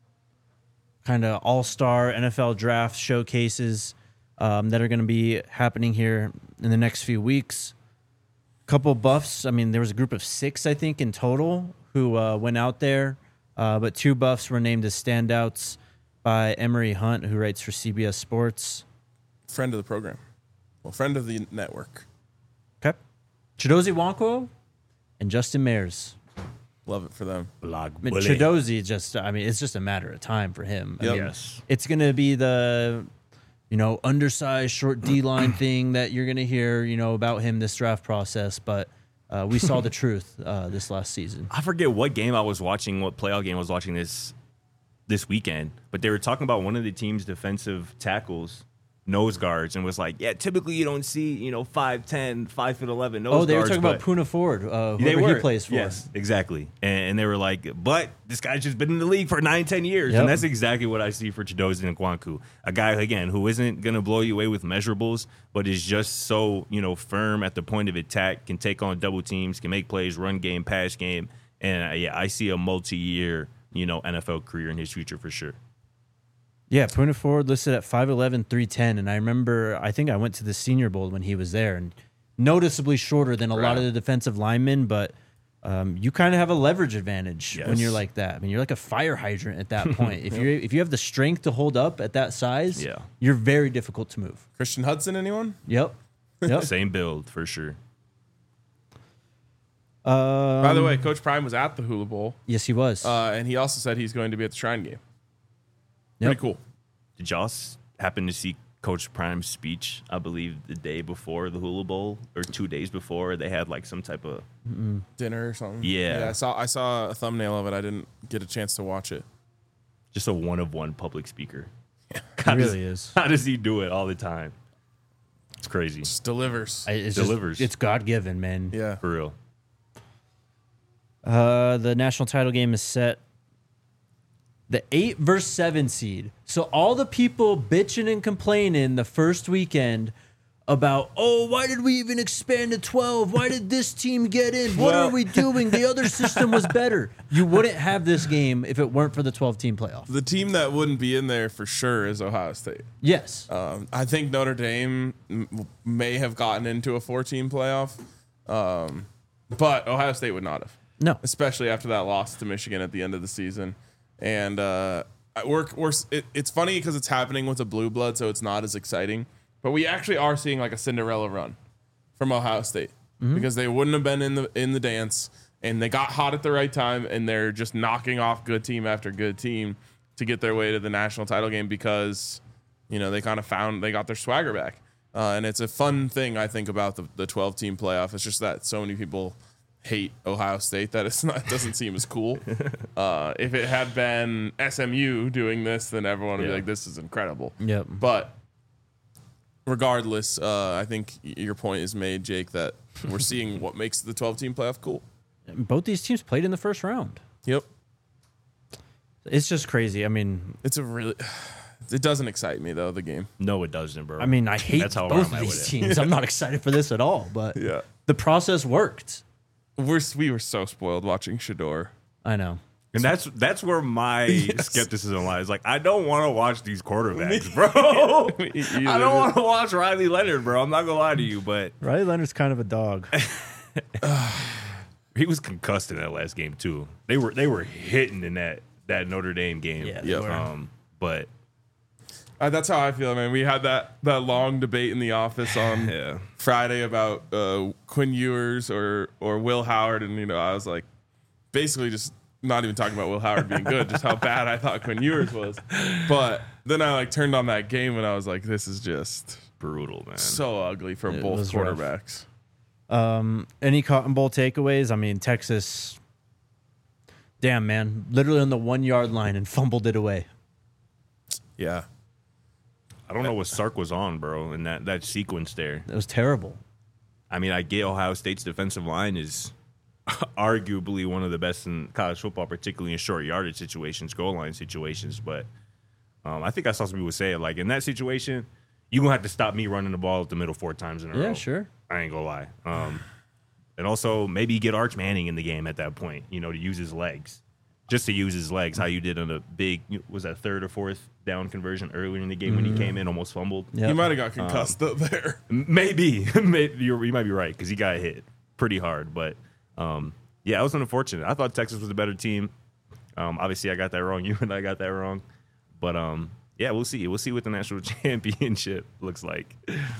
kind of all-star N F L draft showcases um, that are going to be happening here in the next few weeks. Couple buffs. I mean, there was a group of six, I think, in total who uh, went out there. Uh, but two buffs were named as standouts by Emery Hunt, who writes for C B S Sports. Friend of the program. Well, friend of the network. Okay. Chidozie Nwankwo and Justin Mayers. Love it for them. Blog I mean, Chidozie just, I mean, it's just a matter of time for him. I Yep. mean, Yes. it's going to be the, you know, undersized, short D-line thing that you're going to hear, you know, about him this draft process. But uh, we saw the truth uh, this last season. I forget what game I was watching, what playoff game I was watching this this weekend, but they were talking about one of the team's defensive tackles, nose guards, and was like, yeah, typically you don't see, you know, five ten, five foot eleven nose guards. Oh, they were talking but about Puna Ford, uh, they whoever he were. plays for. Yes, exactly. And, and they were like, but this guy's just been in the league for nine, ten years. Yep. And that's exactly what I see for Chidozie Nwankwo. A guy, again, who isn't going to blow you away with measurables, but is just so, you know, firm at the point of attack, can take on double teams, can make plays, run game, pass game. And, uh, yeah, I see a multi-year, you know, N F L career in his future for sure. Yeah, Puna Ford listed at five eleven, three ten. And I remember, I think I went to the Senior Bowl when he was there, and noticeably shorter than a lot Right. of the defensive linemen, but um, you kind of have a leverage advantage when Yes. you're like that. I mean, you're like a fire hydrant at that point. If you if you have the strength to hold up at that size, Yeah. you're very difficult to move. Christian Hudson, anyone? Yep. Yep. Same build for sure. Um, By the way, Coach Prime was at the Hula Bowl, yes, he was. uh, and he also said he's going to be at the Shrine game. Yep. Pretty cool. Did y'all s- happen to see Coach Prime's speech? I believe the day before the Hula Bowl or two days before, they had like some type of Dinner or something. Yeah. I saw. I saw a thumbnail of it. I didn't get a chance to watch it. just a one of one public speaker. He How does- really is. How does he do it all the time? It's crazy. Just delivers. I- It's Delivers. Just, it's God given, man. yeah. For real. Uh, the national title game is set. The eight versus seven seed. So all the people bitching and complaining the first weekend about, oh, why did we even expand to twelve? Why did this team get in? What Well- are we doing? The other system was better. You wouldn't have this game if it weren't for the twelve-team playoff. The team that wouldn't be in there for sure is Ohio State. Yes. Um, I think Notre Dame m- may have gotten into a four-team playoff, um, but Ohio State would not have, No. especially after that loss to Michigan at the end of the season. And uh, we're, we're it, it's funny because it's happening with a blue blood, so it's not as exciting. But we actually are seeing like a Cinderella run from Ohio State because they wouldn't have been in the in the dance, and they got hot at the right time, and they're just knocking off good team after good team to get their way to the national title game because you know they kind of found they got their swagger back. Uh, and it's a fun thing I think about the the twelve team playoff. It's just that so many people hate Ohio State that it's not it doesn't seem as cool. Uh, if it had been S M U doing this, then everyone would be Yeah. like, "This is incredible." Yep. But regardless, uh, I think y- your point is made, Jake, that we're seeing what makes the twelve-team playoff cool. Both these teams played in the first round. Yep. It's just crazy. I mean, It's a really... It doesn't excite me, though, the game. No, it doesn't, bro. I mean, I hate That's how both I'm of at these with it. teams. I'm not excited for this at all, but Yeah. the process worked. We're, we were so spoiled watching Shador. I know. And that's that's where my Yes. skepticism lies. Like, I don't want to watch these quarterbacks, bro. I don't want to watch Riley Leonard, bro. I'm not gonna lie to you, but Riley Leonard's kind of a dog. he was concussed in that last game too. They were they were hitting in that that Notre Dame game. Yeah, they Yep. were. Um, but Uh, that's how I feel, man. We had that, that long debate in the office on yeah, Friday about uh, Quinn Ewers or or Will Howard, and you know, I was like, basically just not even talking about Will Howard being good, just how bad I thought Quinn Ewers was. But then I like turned on that game and I was like, this is just brutal, man. so ugly for It both was rough. quarterbacks. Um, any Cotton Bowl takeaways? I mean, Texas Damn, man. Literally on the one-yard line and fumbled it away. Yeah. I don't know what Sark was on, bro, in that, that sequence there. That was terrible. I mean, I get Ohio State's defensive line is arguably one of the best in college football, particularly in short yardage situations, goal line situations. But um, I think I saw some people say it, like, in that situation, you're going to have to stop me running the ball at the middle four times in a row. Yeah, sure. I ain't going to lie. Um, and also, maybe get Arch Manning in the game at that point, you know, to use his legs. Just to use his legs, how you did on a big, was that third or fourth down conversion earlier in the game mm-hmm. when he came in, almost fumbled? Yep. He might have got concussed um, up there. Maybe. maybe you're, you might be right, because he got hit pretty hard. But, um, yeah, it was unfortunate. I thought Texas was a better team. Um, obviously, I got that wrong. You and I got that wrong. But, um, yeah, we'll see. We'll see what the national championship looks like.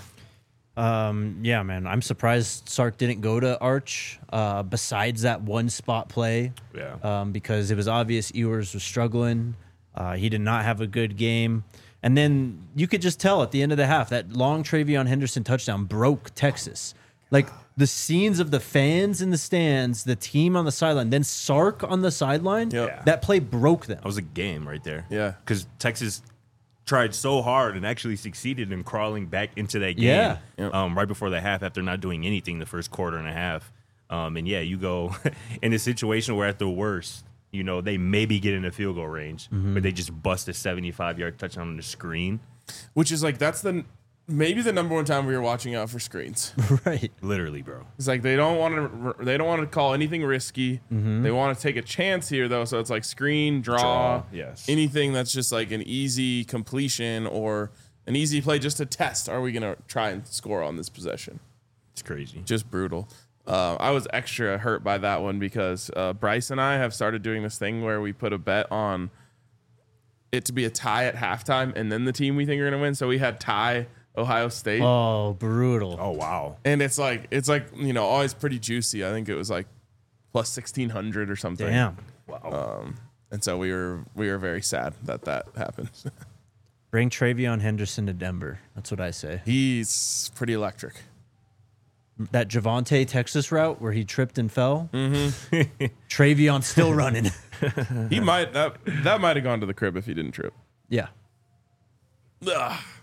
Um, yeah, man. I'm surprised Sark didn't go to Arch uh, besides that one spot play. Yeah. Um, because it was obvious Ewers was struggling. Uh, he did not have a good game. And then you could just tell at the end of the half that long Travion Henderson touchdown broke Texas. Like the scenes of the fans in the stands, the team on the sideline, then Sark on the sideline, Yep. that play broke them. That was a game right there. Yeah. Because Texas tried so hard and actually succeeded in crawling back into that game Yeah. Yep. um, right before the half after not doing anything the first quarter and a half. Um, and, yeah, you go in a situation where at the worst, you know, they maybe get in a field goal range, Mm-hmm. but they just bust a seventy-five-yard touchdown on the screen. Which is like, that's the maybe the number one time we were watching out for screens. Right. Literally, bro. It's like they don't want to they don't want to call anything risky. Mm-hmm. They want to take a chance here though, so it's like screen, draw, Draw, yes. anything that's just like an easy completion or an easy play just to test. Are we gonna try and score on this possession? It's crazy. Just brutal. Uh, I was extra hurt by that one because uh, Bryce and I have started doing this thing where we put a bet on it to be a tie at halftime and then the team we think are gonna win. So we had tie Ohio State. Oh, brutal. Oh, wow. And it's like it's like you know always pretty juicy. I think it was like plus sixteen hundred or something. Damn. Wow. Um, and so we were we were very sad that that happened. Bring Travion Henderson to Denver. That's what I say. He's pretty electric. That Javante Texas route where he tripped and fell. Mm-hmm. Travion still running. He might that that might have gone to the crib if he didn't trip. Yeah. Ugh.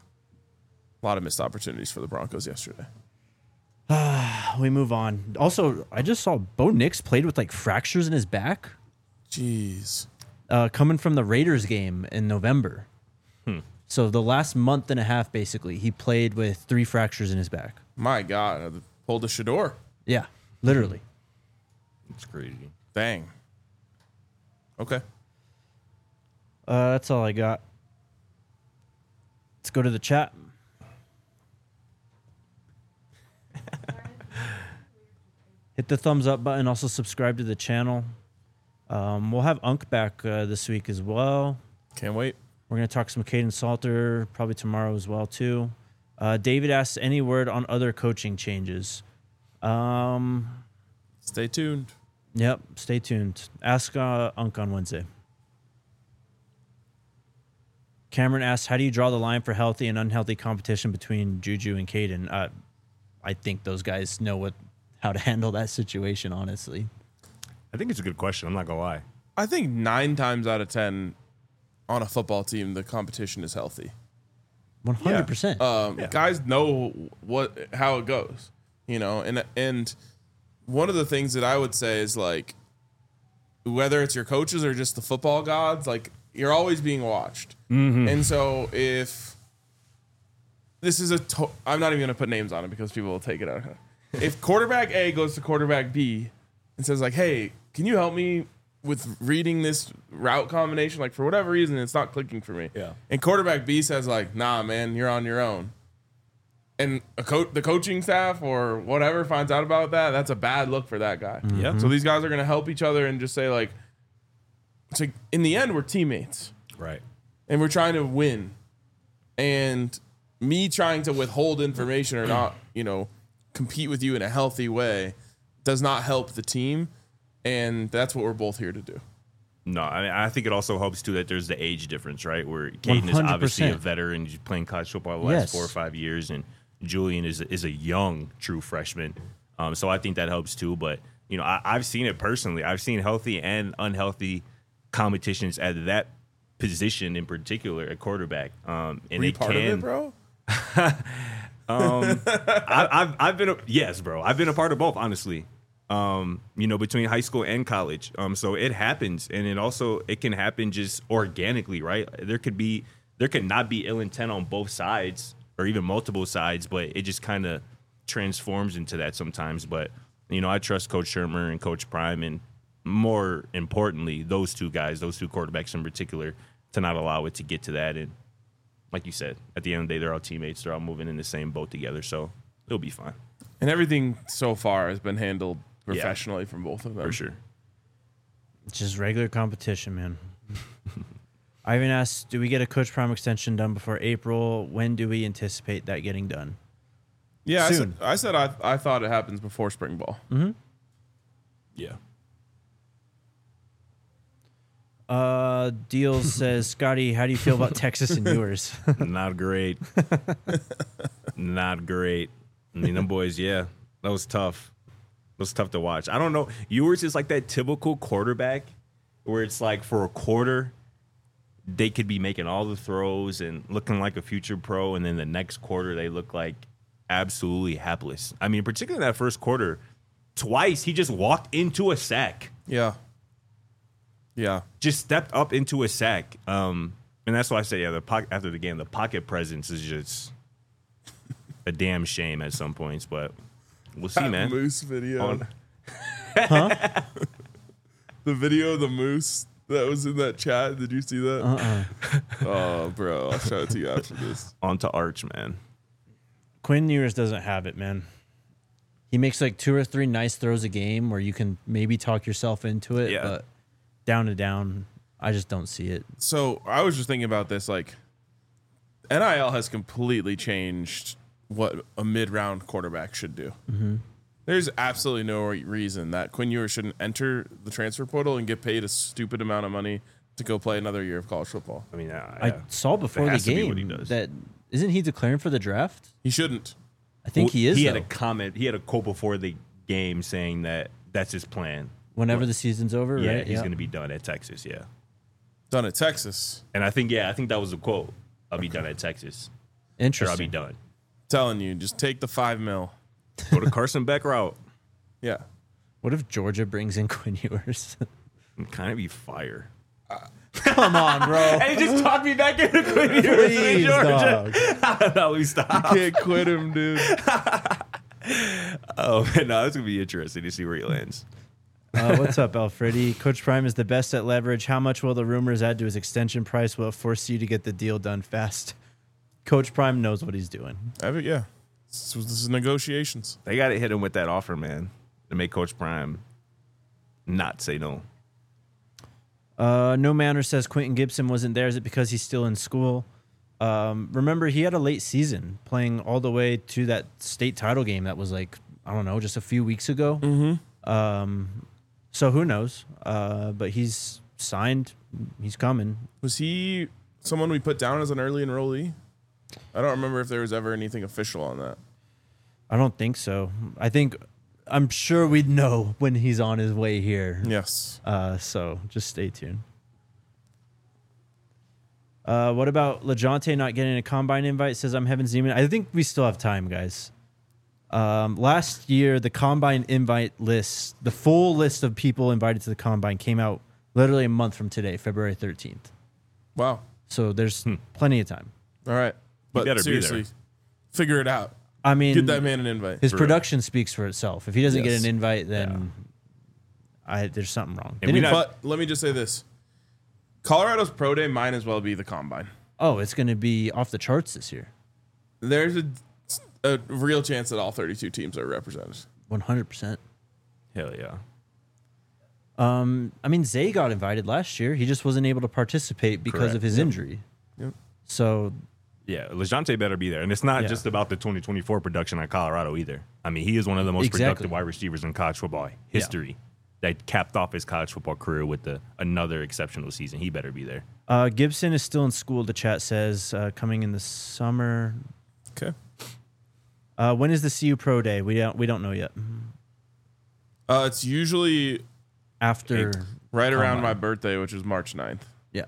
A lot of missed opportunities for the Broncos yesterday. We move on. Also, I just saw Bo Nix played with like fractures in his back. Jeez. Uh, coming from the Raiders game in November. Hmm. So the last month and a half, basically, he played with three fractures in his back. My God. I pulled a Shador. Yeah, literally. It's crazy. Dang. Okay. Uh, that's all I got. Let's go to the chat. Hit the thumbs up button. Also subscribe to the channel. Um, we'll have Unk back uh, this week as well. Can't wait. We're going to talk some Caden Salter probably tomorrow as well, too. Uh, David asks, any word on other coaching changes? Um, Stay tuned. yep, stay tuned. Ask uh, Unk on Wednesday. Cameron asks, how do you draw the line for healthy and unhealthy competition between Juju and Caden? Uh, I think those guys know what how to handle that situation, honestly. I think it's a good question. I'm not going to lie. I think nine times out of ten on a football team, the competition is healthy. one hundred percent. Um, Yeah. Guys know what how it goes, you know, and and one of the things that I would say is like, whether it's your coaches or just the football gods, like you're always being watched, Mm-hmm. and so if this is a, to- I'm not even gonna put names on it because people will take it out. If quarterback A goes to quarterback B and says like, hey, can you help me with reading this route combination? Like for whatever reason, it's not clicking for me. Yeah. And quarterback B says like, nah, man, you're on your own. And a co- the coaching staff or whatever finds out about that, that's a bad look for that guy. Yeah. So these guys are going to help each other and just say like, it's like in the end, we're teammates Right. and we're trying to win. And me trying to withhold information or not, you know, compete with you in a healthy way does not help the team. And that's what we're both here to do. No, I mean, I think it also helps, too, that there's the age difference, right? Where Caden is obviously a one hundred percent. veteran. He's playing college football the last Yes. four or five years, and Julian is, is a young, true freshman. Um, so I think that helps, too. But you know, I, I've seen it personally. I've seen healthy and unhealthy competitions at that position in particular at quarterback. Um, and Were you it part can, of it, bro? um, I, I've I've been a, yes, bro. I've been a part of both, honestly. Um, you know, between high school and college. Um, so it happens, and it also it can happen just organically, right? There could be there could not be ill intent on both sides or even multiple sides, but it just kind of transforms into that sometimes. But you know, I trust Coach Shermer and Coach Prime, and more importantly, those two guys, those two quarterbacks in particular, to not allow it to get to that. And like you said, at the end of the day, they're all teammates. They're all moving in the same boat together, so it'll be fine. And everything so far has been handled professionally yeah. from both of them. For sure. It's just regular competition, man. Ivan asks, do we get a Coach Prime extension done before April? When do we anticipate that getting done? Yeah, Soon. I said I, said I, I thought it happens before spring ball. Mm-hmm. Yeah. Uh, Deals says, Scotty, how do you feel about Texas and yours? Not great. Not great. I mean, them boys, yeah, that was tough. It was tough to watch. I don't know. Yours is like that typical quarterback where it's like for a quarter, they could be making all the throws and looking like a future pro, and then the next quarter they look like absolutely hapless. I mean, particularly that first quarter, twice he just walked into a sack. Yeah. Yeah. Just stepped up into a sack. Um, and that's why I say, yeah, the po- after the game, the pocket presence is just a damn shame at some points, but we'll see, that man. Moose video. On- Huh? The video of the moose that was in that chat. Did you see that? Uh-uh. Oh, bro. I'll show it to you after this. On to Arch, man. Quinn Ewers doesn't have it, man. He makes like two or three nice throws a game where you can maybe talk yourself into it, Yeah. but down to down, I just don't see it. So I was just thinking about this. Like, N I L has completely changed what a mid-round quarterback should do. Mm-hmm. There's absolutely no reason that Quinn Ewers shouldn't enter the transfer portal and get paid a stupid amount of money to go play another year of college football. I mean, uh, I yeah. saw before the has to be what he game does. that isn't he declaring for the draft? He shouldn't. I think Well, he is. He though. had a comment. He had a quote before the game saying that that's his plan. Whenever the season's over, Yeah, right? he's going to be done at Texas. Yeah, Done at Texas. and I think yeah, I think that was the quote. I'll be done at Texas. Or Interesting. I'll be done. Telling you, just take the five mil. Go to Carson Beck route. Yeah. What if Georgia brings in Quinn Ewers? And kind of be fire. Come on, bro. And he just talked me back into Quinn Ewers in Please, Georgia. dog. No, we stop. Can't quit him, dude. Oh, man, no, it's gonna be interesting to see where he lands. Uh, what's up, Alfredi? Coach Prime is the best at leverage. How much will the rumors add to his extension price? Will it force you to get the deal done fast? Coach Prime knows what he's doing. I mean, yeah. This, was- this is negotiations. They got to hit him with that offer, man, to make Coach Prime not say no. Uh, no Manner says Quentin Gibson wasn't there. Is it because he's still in school? Um, remember, he had a late season playing all the way to that state title game that was like, I don't know, just a few weeks ago. Mm-hmm. Um, so who knows? Uh, but he's signed. He's coming. Was he someone we put down as an early enrollee? I don't remember if there was ever anything official on that. I don't think so. I think I'm sure we'd know when he's on his way here. Yes. Uh, so just stay tuned. Uh, what about LeJohntay not getting a combine invite? Says I'm Heaven Zeman. I think we still have time, guys. Um, last year, the combine invite list, the full list of people invited to the combine came out literally a month from today, February thirteenth. Wow. So there's plenty of time. All right. But better be seriously, there. figure it out. I mean, Get that man an invite. his For real. production speaks for itself. If he doesn't Yes. get an invite, then I, there's something wrong. And They we didn't- not- But let me just say this. Colorado's pro day might as well be the combine. oh, it's going to be off the charts this year. There's a, a real chance that all thirty-two teams are represented. one hundred percent. Hell yeah. Um, I mean, Zay got invited last year. He just wasn't able to participate because Correct. of his Yep. injury. Yep. So, Yeah, LeJohntay better be there. And it's not Yeah. just about the twenty twenty-four production at Colorado either. I mean, he is one of the most Exactly. productive wide receivers in college football history that capped off his college football career with the, another exceptional season. He better be there. uh, Gibson is still in school, the chat says, uh, coming in the summer. Okay. Uh, when is the C U Pro Day? We don't we don't know yet. Uh, it's usually After right around Combine. my birthday, which is March ninth. Yeah.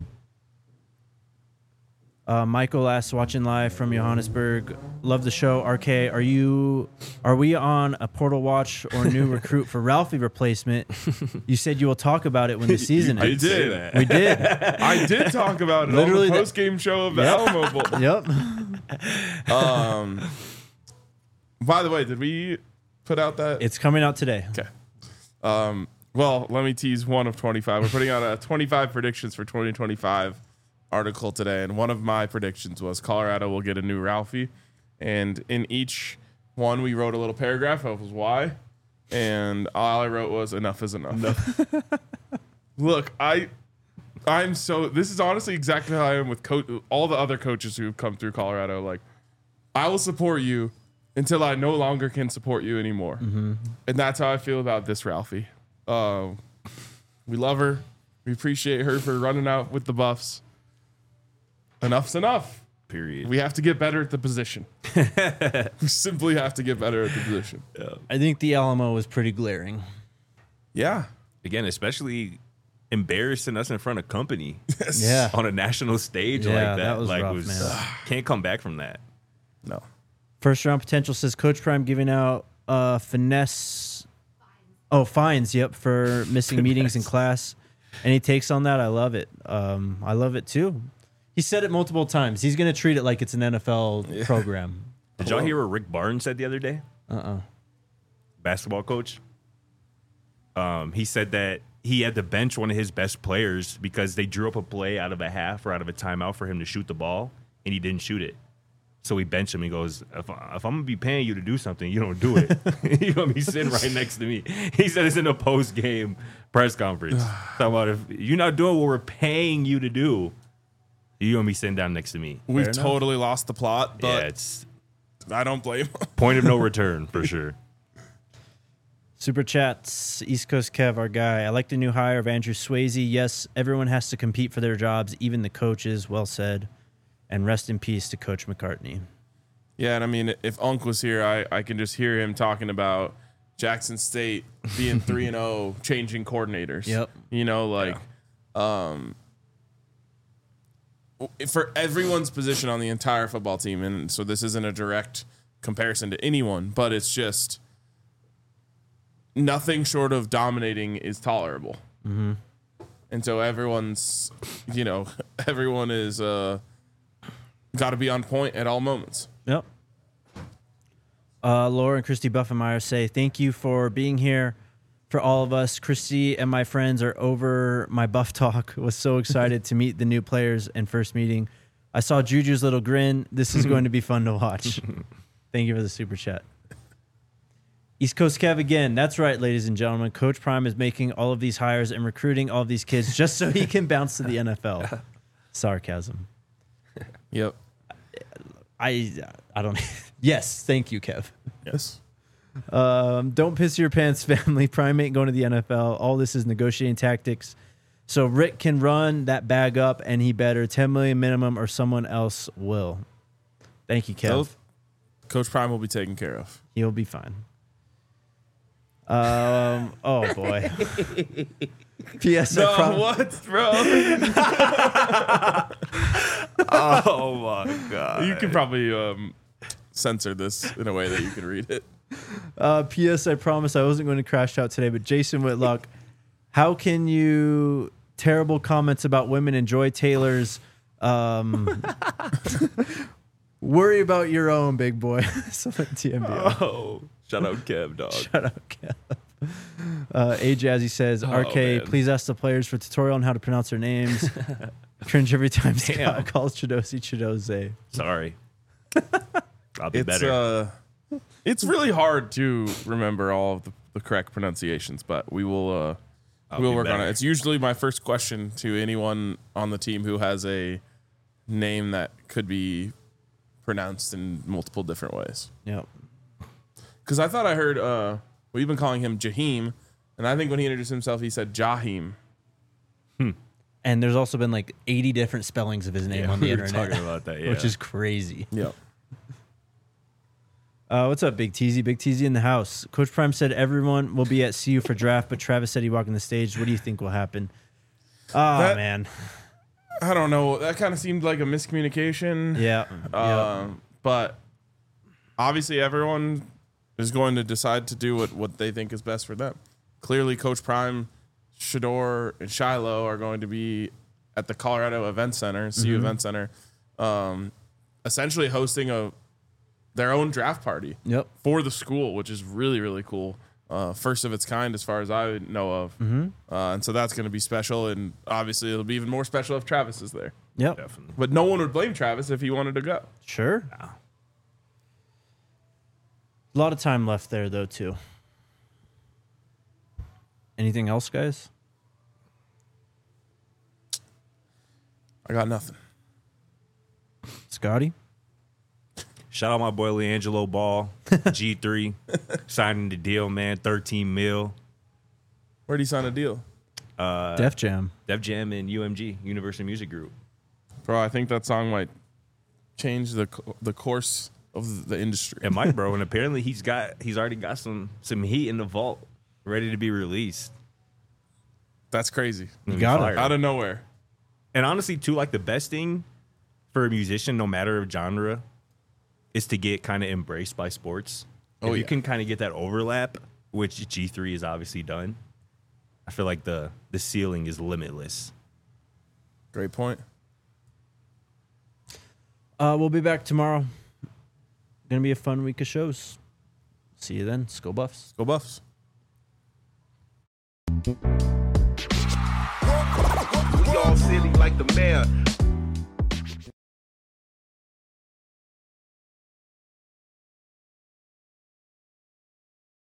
Uh, Michael asks, watching live from Johannesburg. Love the show. R K, are you? Are we on a portal watch or new recruit for Ralphie replacement? You said you will talk about it when the season I ends. did. that. We did. I did talk about it Literally on the- the post game show of the Yep. Alamo Bowl. Yep. Um, by the way, did we put out that? It's coming out today. Okay. Um, well, let me tease one of twenty-five. We're putting out a twenty-five predictions for twenty twenty-five article today, and one of my predictions was Colorado will get a new Ralphie, and in each one we wrote a little paragraph of why, and all I wrote was enough is enough. Look, I I'm so this is honestly exactly how I am with co- all the other coaches who've come through Colorado. Like, I will support you until I no longer can support you anymore, Mm-hmm. and that's how I feel about this Ralphie. Uh, we love her, we appreciate her for running out with the Buffs. Enough's enough. Period. We have to get better at the position. We simply have to get better at the position. I think the Alamo was pretty glaring. Yeah. Again, especially embarrassing us in front of company Yeah. on a national stage Yeah, like that. that was like rough, was man. can't come back from that. No. First round potential says Coach Prime giving out uh, finesse. Oh, fines. Yep, for missing meetings in class. Any takes on that? I love it. Um, I love it too. He said it multiple times. He's going to treat it like it's an N F L program. Did y'all hear what Rick Barnes said the other day? Uh-uh. Basketball coach. Um, he said that he had to bench one of his best players because they drew up a play out of a half or out of a timeout for him to shoot the ball, and he didn't shoot it. So he benched him. He goes, if, if I'm going to be paying you to do something, you don't do it. You're going to be sitting right next to me. He said it's in a post-game press conference. Talking about if you're not doing what we're paying you to do, you're going to be sitting down next to me. We've enough. totally lost the plot, Yeah, but it's I don't blame him. point of no return for sure. Super chats, East Coast Kev, our guy. I like the new hire of Andrew Swayze. Yes, everyone has to compete for their jobs, even the coaches. Well said. And rest in peace to Coach McCartney. Yeah, and I mean, if Unk was here, I, I can just hear him talking about Jackson State being three and zero, changing coordinators. Yep. You know, like, um, for everyone's position on the entire football team, and so this isn't a direct comparison to anyone, but it's just nothing short of dominating is tolerable. Mm-hmm. And so everyone's, you know, everyone is uh, got to be on point at all moments. Yep. Uh, Laura and Christy Buffenmeyer say, thank you for being here for all of us. Christy and my friends are over my Buff talk. Was so excited to meet the new players and first meeting. I saw Juju's little grin. This is going to be fun to watch. Thank you for the super chat. East Coast Kev again. That's right, ladies and gentlemen. Coach Prime is making all of these hires and recruiting all of these kids just so he can bounce to the N F L. Sarcasm. Yep. I I don't. Yes, thank you, Kev. Yes. Um, don't piss your pants, family. Prime ain't going to the N F L. All this is negotiating tactics. So Rick can run that bag up, and he better ten million minimum, or someone else will. Thank you, Kev. So, Coach Prime will be taken care of. He'll be fine. Um. Oh boy. P S. I prom- what, bro? Oh, my God. You can probably um, censor this in a way that you can read it. Uh, P S. I promise I wasn't going to crash out today, but Jason Whitlock, how can you terrible comments about women enjoy Taylor's? Um, worry about your own, big boy. Something T M B O. Oh, shout out Kev, dog. Shut up, Kev. Uh, A Jazzy says, R K, man. please ask the players for tutorial on how to pronounce their names. Cringe every time Scott Damn. calls Chidosi Chidoze. Sorry. I'll be It's better. uh, it's really hard to remember all of the, the correct pronunciations, but we will uh, I'll we'll be work on better. it. It's usually my first question to anyone on the team who has a name that could be pronounced in multiple different ways. Yep. Because I thought I heard uh, we've been calling him Jaheim, and I think when he introduced himself, he said Jaheim. And there's also been like eighty different spellings of his name Yeah, on the we were internet, talking about that, which yeah. is crazy. Yep. Uh, what's up, Big Teasy? Big Teasy in the house. Coach Prime said everyone will be at C U for draft, but Travis said he walking the stage. What do you think will happen? Oh, That- man. I don't know. That kind of seemed like a miscommunication. Yeah. Um, But obviously, everyone is going to decide to do what, what they think is best for them. Clearly, Coach Prime, Shador, and Shiloh are going to be at the Colorado Event Center, C U Mm-hmm. Event Center, um, essentially hosting a their own draft party Yep. for the school, which is really, really cool. Uh, first of its kind, as far as I know of. Mm-hmm. Uh, and so that's going to be special. And obviously, it'll be even more special if Travis is there. Yep. Definitely. But no one would blame Travis if he wanted to go. Sure. A lot of time left there, though, too. Anything else, guys? I got nothing. Scotty? Shout out my boy LeAngelo Ball, G three, signing the deal, man, thirteen mil. Where'd he sign a deal? Uh, Def Jam. Def Jam and U M G, Universal Music Group. Bro, I think that song might change the co- the course of the industry. And Mike, bro, and apparently he's got he's already got some some heat in the vault, ready to be released. That's crazy. You got it. Fire. Out of nowhere. And honestly, too, like the best thing for a musician, no matter of genre, is to get kind of embraced by sports. Oh, if you yeah. can kind of get that overlap, which G three has obviously done, I feel like the the ceiling is limitless. Great point. Uh, we'll be back tomorrow. Gonna be a fun week of shows. See you then. Skull Buffs. Go Buffs. We all silly like the mayor.